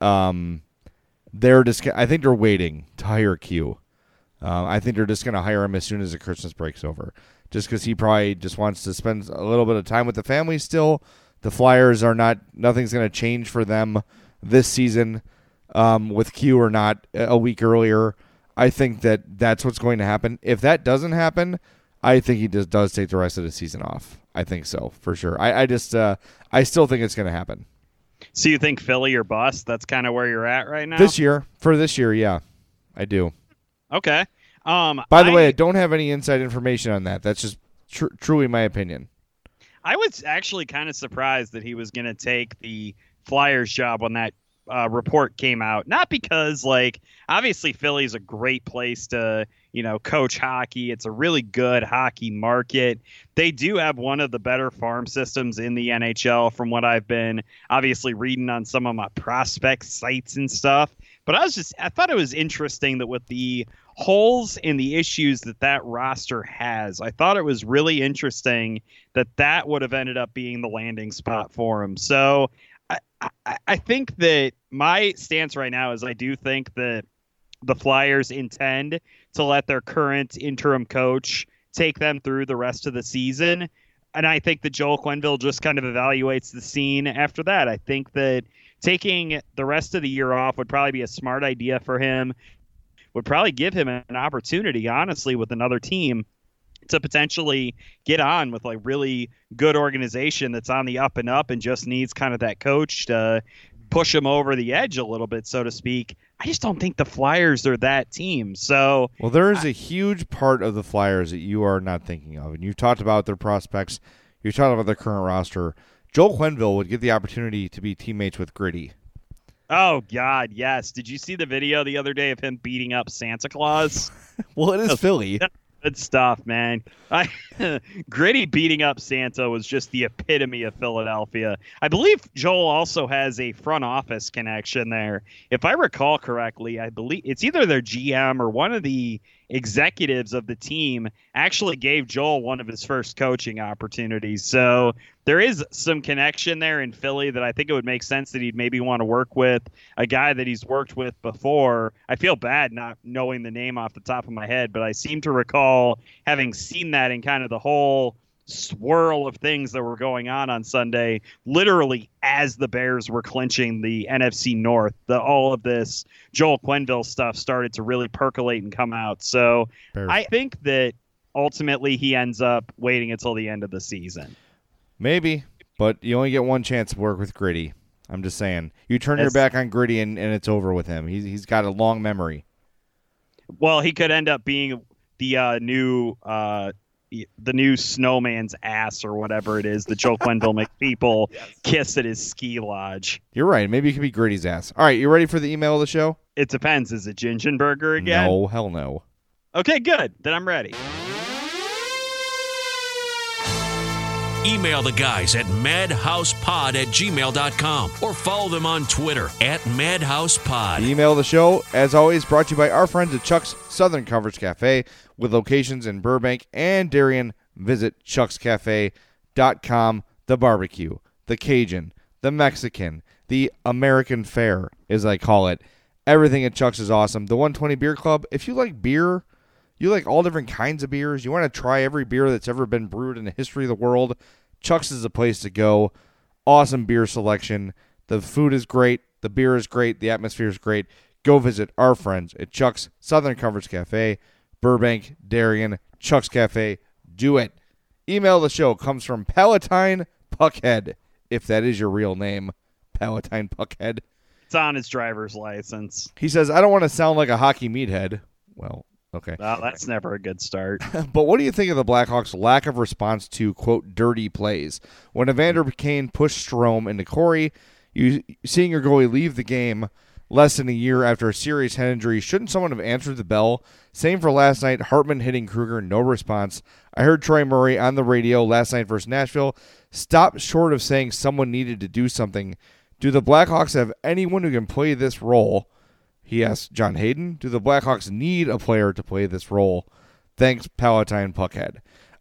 they're waiting to hire Q. I think they're just going to hire him as soon as the Christmas breaks over, just because he probably just wants to spend a little bit of time with the family still. The Flyers are not – nothing's going to change for them this season with Q or not a week earlier. I think that that's what's going to happen. If that doesn't happen, I think he just does take the rest of the season off. I think so, for sure. I still think it's going to happen. So you think Philly or bust? That's kind of where you're at right now? For this year, yeah, I do. Okay. By the way, I don't have any inside information on that. That's just truly my opinion. I was actually kind of surprised that he was going to take the Flyers job when that report came out. Not because, obviously Philly's a great place to, coach hockey. It's a really good hockey market. They do have one of the better farm systems in the NHL from what I've been obviously reading on some of my prospect sites and stuff. But I thought it was interesting that with the holes and the issues that roster has, I thought it was really interesting that would have ended up being the landing spot for him. So I think that my stance right now is I do think that the Flyers intend to let their current interim coach take them through the rest of the season. And I think that Joel Quenneville just kind of evaluates the scene after that. I think that taking the rest of the year off would probably be a smart idea for him, would probably give him an opportunity, honestly, with another team to potentially get on with really good organization that's on the up and up and just needs kind of that coach to push him over the edge a little bit, so to speak. I just don't think the Flyers are that team. So, well, there is a huge part of the Flyers that you are not thinking of, and you've talked about their prospects. You've talked about their current roster. Joel Quenneville would get the opportunity to be teammates with Gritty. Oh, God, yes. Did you see the video the other day of him beating up Santa Claus? Well, it is Philly. Good stuff, man. Gritty beating up Santa was just the epitome of Philadelphia. I believe Joel also has a front office connection there. If I recall correctly, I believe it's either their GM or one of the executives of the team actually gave Joel one of his first coaching opportunities. So there is some connection there in Philly that I think it would make sense that he'd maybe want to work with a guy that he's worked with before. I feel bad not knowing the name off the top of my head, but I seem to recall having seen that in kind of the whole swirl of things that were going on Sunday, literally as the Bears were clinching the NFC North. All of this Joel Quenneville stuff started to really percolate and come out. So Bears. I think that ultimately he ends up waiting until the end of the season. Maybe, but you only get one chance to work with Gritty. I'm just saying. You turn your back on Gritty and it's over with him. He's got a long memory. Well, he could end up being the new snowman's ass or whatever it is that Joel Quenneville makes people kiss at his ski lodge. You're right. Maybe it could be Gritty's ass. All right, you ready for the email of the show? It depends. Is it Gingenberger again? No, hell no. Okay, good. Then I'm ready. Email the guys at madhousepod@gmail.com or follow them on Twitter @madhousepod. The email of the show, as always, brought to you by our friends at Chuck's Southern Comforts Cafe with locations in Burbank and Darien. Visit chuckscafe.com. The barbecue, the Cajun, the Mexican, the American fare, as I call it. Everything at Chuck's is awesome. The 120 Beer Club, if you like beer, you like all different kinds of beers, you want to try every beer that's ever been brewed in the history of the world, Chuck's is the place to go. Awesome beer selection. The food is great. The beer is great. The atmosphere is great. Go visit our friends at Chuck's Southern Comforts Cafe, Burbank, Darien, Chuck's Cafe. Do it. Email the show comes from Palatine Puckhead, if that is your real name, Palatine Puckhead. It's on his driver's license. He says, I don't want to sound like a hockey meathead. Well, okay. Well, that's never a good start. But what do you think of the Blackhawks' lack of response to, quote, dirty plays? When Evander Kane pushed Strome into Corey, seeing your goalie leave the game less than a year after a serious head injury, shouldn't someone have answered the bell? Same for last night, Hartman hitting Kruger, no response. I heard Troy Murray on the radio last night versus Nashville stop short of saying someone needed to do something Do the Blackhawks have anyone who can play this role? He asked John Hayden. Do the Blackhawks need a player to play this role? Thanks, Palatine Puckhead.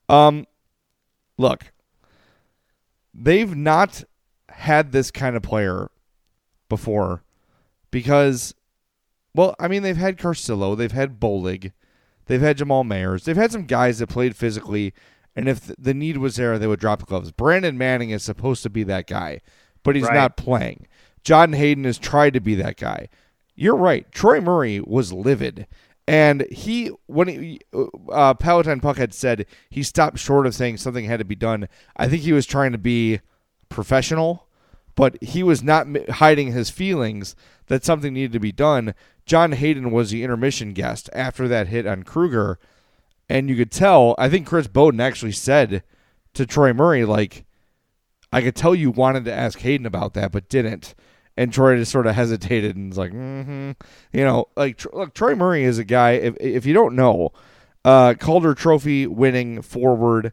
Look, they've not had this kind of player before because, well, I mean, they've had Carcillo, they've had Bolig, they've had Jamal Mayers, they've had some guys that played physically, and if the need was there, they would drop the gloves. Brandon Manning is supposed to be that guy, but he's not playing. John Hayden has tried to be that guy. You're right. Troy Murray was livid. And when Palatine Puckhead said he stopped short of saying something had to be done, I think he was trying to be professional, but he was not hiding his feelings that something needed to be done. John Hayden was the intermission guest after that hit on Kruger, and you could tell, I think Chris Bowden actually said to Troy Murray, like, I could tell you wanted to ask Hayden about that, but didn't. And Troy just sort of hesitated and was like, look, Troy Murray is a guy, if you don't know, Calder Trophy winning forward,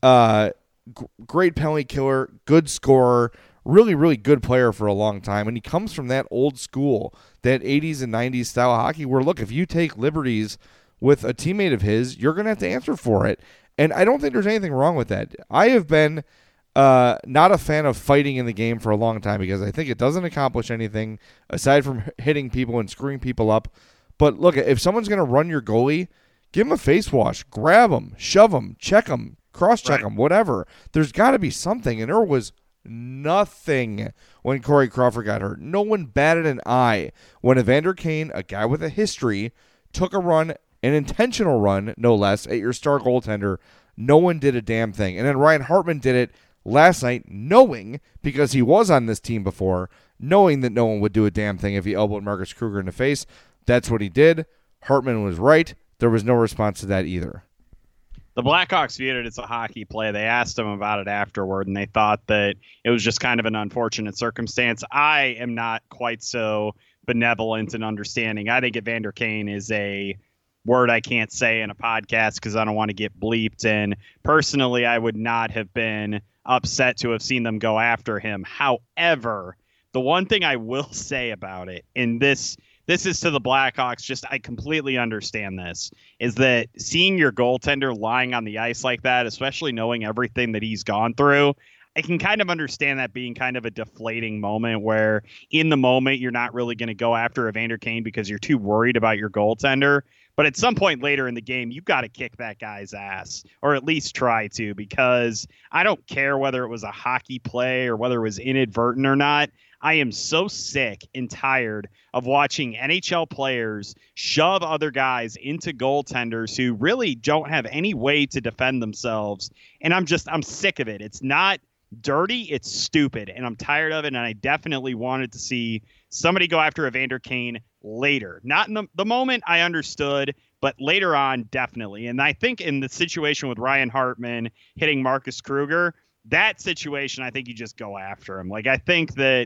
great penalty killer, good scorer, really, really good player for a long time. And he comes from that old school, that 80s and 90s style hockey where, look, if you take liberties with a teammate of his, you're going to have to answer for it. And I don't think there's anything wrong with that. I have been not a fan of fighting in the game for a long time because I think it doesn't accomplish anything aside from hitting people and screwing people up. But look, if someone's going to run your goalie, give him a face wash, grab him, shove him, check him, cross-check him, whatever. There's got to be something, and there was nothing when Corey Crawford got hurt. No one batted an eye when Evander Kane, a guy with a history, took a run, an intentional run, no less, at your star goaltender. No one did a damn thing. And then Ryan Hartman did it last night, knowing, because he was on this team before, knowing that no one would do a damn thing if he elbowed Marcus Kruger in the face. That's what he did. Hartman was right. There was no response to that either. The Blackhawks viewed it as a hockey play. They asked him about it afterward, and they thought that it was just kind of an unfortunate circumstance. I am not quite so benevolent and understanding. I think Evander Kane is a word I can't say in a podcast because I don't want to get bleeped. And personally, I would not have been upset to have seen them go after him. However, the one thing I will say about it, and this is to the Blackhawks, just I completely understand this, is that seeing your goaltender lying on the ice like that, especially knowing everything that he's gone through, I can kind of understand that being kind of a deflating moment where in the moment you're not really going to go after Evander Kane because you're too worried about your goaltender. But at some point later in the game, you've got to kick that guy's ass, or at least try to, because I don't care whether it was a hockey play or whether it was inadvertent or not. I am so sick and tired of watching NHL players shove other guys into goaltenders who really don't have any way to defend themselves. And I'm sick of it. It's not dirty, it's stupid, and I'm tired of it. And I definitely wanted to see somebody go after Evander Kane later. Not in the moment, I understood, but later on, definitely. And I think in the situation with Ryan Hartman hitting Marcus Kruger, that situation, I think you just go after him. Like, I think that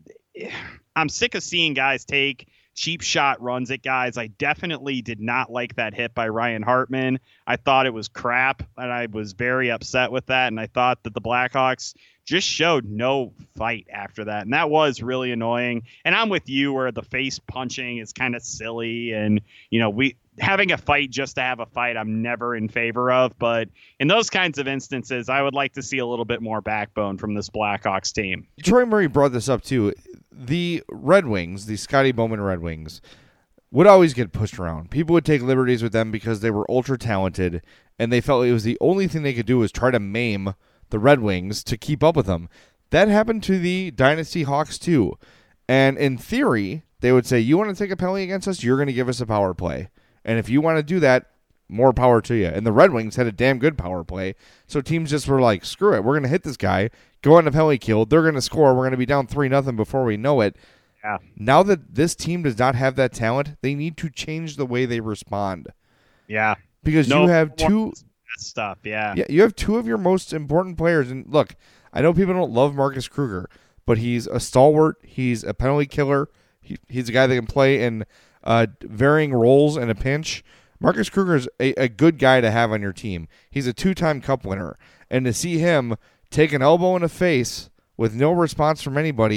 I'm sick of seeing guys take cheap shot runs at guys. I definitely did not like that hit by Ryan Hartman. I thought it was crap, and I was very upset with that. And I thought that the Blackhawks just showed no fight after that. And that was really annoying. And I'm with you where the face punching is kind of silly. And, having a fight just to have a fight, I'm never in favor of. But in those kinds of instances, I would like to see a little bit more backbone from this Blackhawks team. Troy Murray brought this up too. The Red Wings, the Scotty Bowman Red Wings, would always get pushed around. People would take liberties with them because they were ultra talented, and they felt it was the only thing they could do was try to maim the Red Wings to keep up with them. That happened to the Dynasty Hawks too. And in theory, they would say, you want to take a penalty against us? You're going to give us a power play. And if you want to do that, more power to you. And the Red Wings had a damn good power play. So teams just were like, screw it. We're going to hit this guy, go on a penalty kill. They're going to score. We're going to be down 3-0 before we know it. Yeah. Now that this team does not have that talent, they need to change the way they respond. Yeah. Because you have two stuff. Yeah. Yeah. You have two of your most important players. And look, I know people don't love Marcus Kruger, but he's a stalwart. He's a penalty killer. He's a guy that can play in varying roles in a pinch. Marcus Kruger is a good guy to have on your team. He's a 2-time cup winner. And to see him take an elbow in the face with no response from anybody,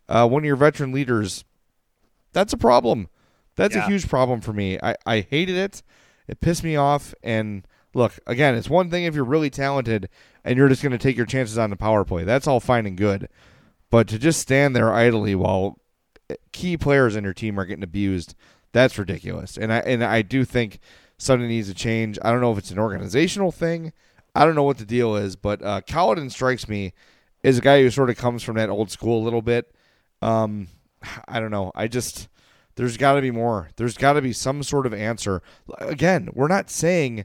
one of your veteran leaders, that's a problem. That's a Yeah. huge problem for me. I hated it. It pissed me off. And look, again, it's one thing if you're really talented and you're just going to take your chances on the power play. That's all fine and good. But to just stand there idly while key players in your team are getting abused, that's ridiculous. And I do think something needs to change. I don't know if it's an organizational thing. I don't know what the deal is. But Colladin strikes me as a guy who sort of comes from that old school a little bit. I don't know. There's got to be more. There's got to be some sort of answer. Again, we're not saying,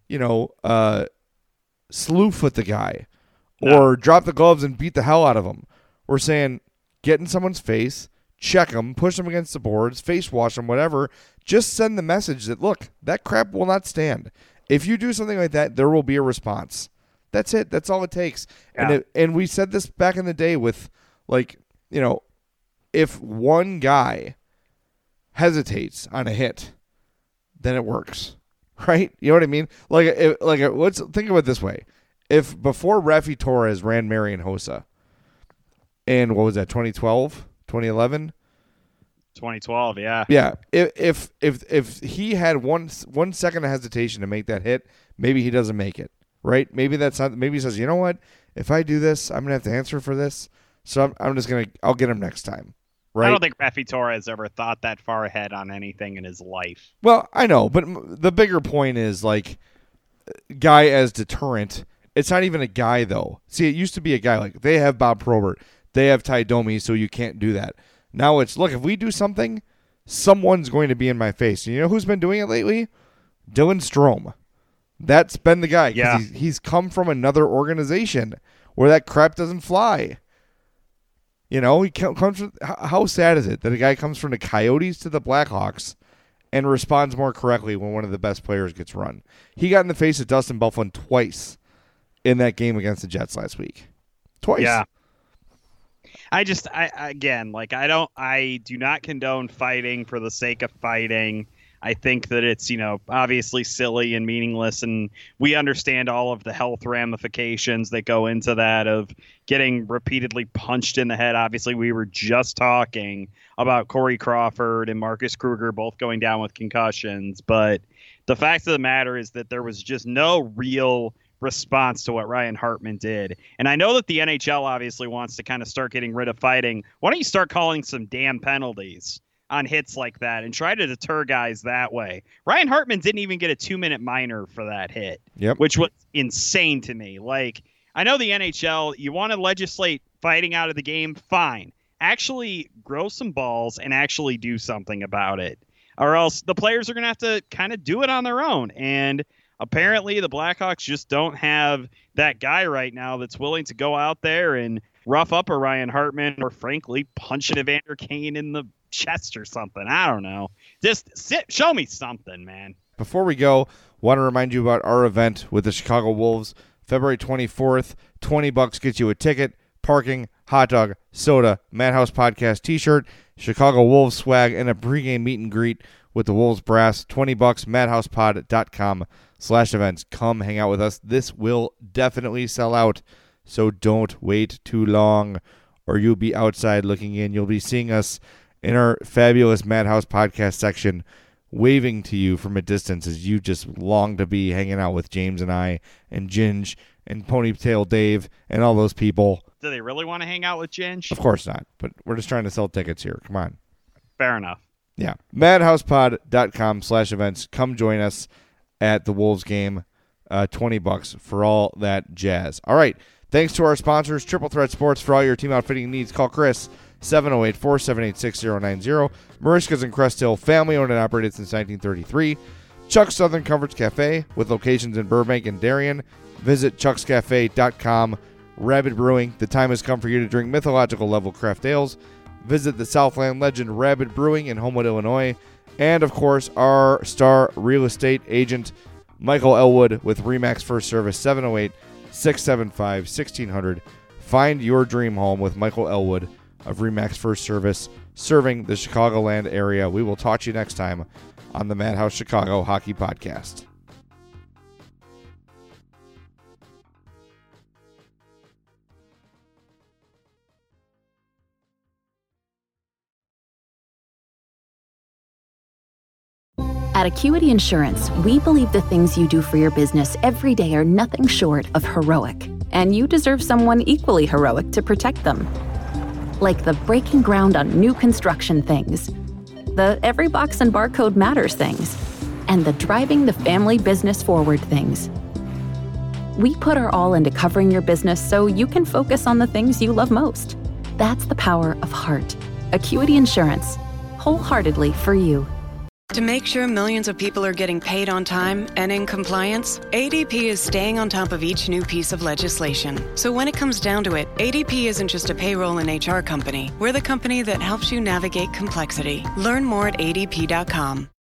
slew foot the guy or drop the gloves and beat the hell out of him. We're saying get in someone's face, check them, push them against the boards, face wash them, whatever. Just send the message that, look, that crap will not stand. If you do something like that, there will be a response. That's it. That's all it takes. Yeah. And we said this back in the day with, if one guy hesitates on a hit, then it works, right? You know what I mean? Let's think of it this way: if before Rafi Torres ran Marian Hossa, in what was that, 2012, 2011, 2012, yeah, yeah. If he had one second of hesitation to make that hit, maybe he doesn't make it, right? Maybe that's not. Maybe he says, you know what? If I do this, I'm gonna have to answer for this. So I'll get him next time. Right? I don't think Rafi Torres ever thought that far ahead on anything in his life. Well, I know, but the bigger point is, guy as deterrent. It's not even a guy, though. See, it used to be a guy. They have Bob Probert. They have Ty Domi, so you can't do that. Now it's, look, if we do something, someone's going to be in my face. And you know who's been doing it lately? Dylan Strome. That's been the guy. Yeah. He's come from another organization where that crap doesn't fly. He comes from, how sad is it that a guy comes from the Coyotes to the Blackhawks and responds more correctly when one of the best players gets run? He got in the face of Dustin Byfuglien twice in that game against the Jets last week. Twice. Yeah. I do not condone fighting for the sake of fighting. I think that it's, obviously silly and meaningless, and we understand all of the health ramifications that go into that of getting repeatedly punched in the head. Obviously, we were just talking about Corey Crawford and Marcus Kruger both going down with concussions, but the fact of the matter is that there was just no real response to what Ryan Hartman did. And I know that the NHL obviously wants to kind of start getting rid of fighting. Why don't you start calling some damn penalties on hits like that and try to deter guys that way? Ryan Hartman didn't even get a 2-minute minor for that hit, which was insane to me. I know the NHL, you want to legislate fighting out of the game, fine. Actually grow some balls and actually do something about it, or else the players are going to have to kind of do it on their own. And apparently the Blackhawks just don't have that guy right now that's willing to go out there and rough up a Ryan Hartman or, frankly, punch an Evander Kane in the chest or something. I don't know. Just show me something, man. Before we go, want to remind you about our event with the Chicago Wolves, February 24th. $20 gets you a ticket, parking, hot dog, soda, Madhouse Podcast t-shirt, Chicago Wolves swag, and a pregame meet and greet with the Wolves brass. $20, madhousepod.com/events. Come hang out with us. This will definitely sell out, so don't wait too long, or you'll be outside looking in. You'll be seeing us in our fabulous Madhouse Podcast section, waving to you from a distance as you just long to be hanging out with James and I and Ginge and Ponytail Dave and all those people. Do they really want to hang out with Ginge? Of course not, but we're just trying to sell tickets here. Come on. Fair enough. Yeah. madhousepod.com/events. Come join us at the Wolves game. $20 for all that jazz. All right. Thanks to our sponsors, Triple Threat Sports. For all your team outfitting needs, call Chris, 708-478-6090. Marishka's in Crest Hill, family-owned and operated since 1933. Chuck's Southern Comforts Cafe, with locations in Burbank and Darien. Visit chuckscafe.com. Rabid Brewing, the time has come for you to drink mythological level craft ales. Visit the Southland legend Rabid Brewing in Homewood, Illinois. And, of course, our star real estate agent, Michael Elwood, with RE/MAX First Service, 708-675-1600. Find your dream home with Michael Elwood of RE/MAX First Service, serving the Chicagoland area. We will talk to you next time on the Madhouse Chicago Hockey Podcast. At Acuity Insurance, we believe the things you do for your business every day are nothing short of heroic, and you deserve someone equally heroic to protect them. Like the breaking ground on new construction things, the every box and barcode matters things, and the driving the family business forward things. We put our all into covering your business so you can focus on the things you love most. That's the power of heart. Acuity Insurance, wholeheartedly for you. To make sure millions of people are getting paid on time and in compliance, ADP is staying on top of each new piece of legislation. So when it comes down to it, ADP isn't just a payroll and HR company. We're the company that helps you navigate complexity. Learn more at adp.com.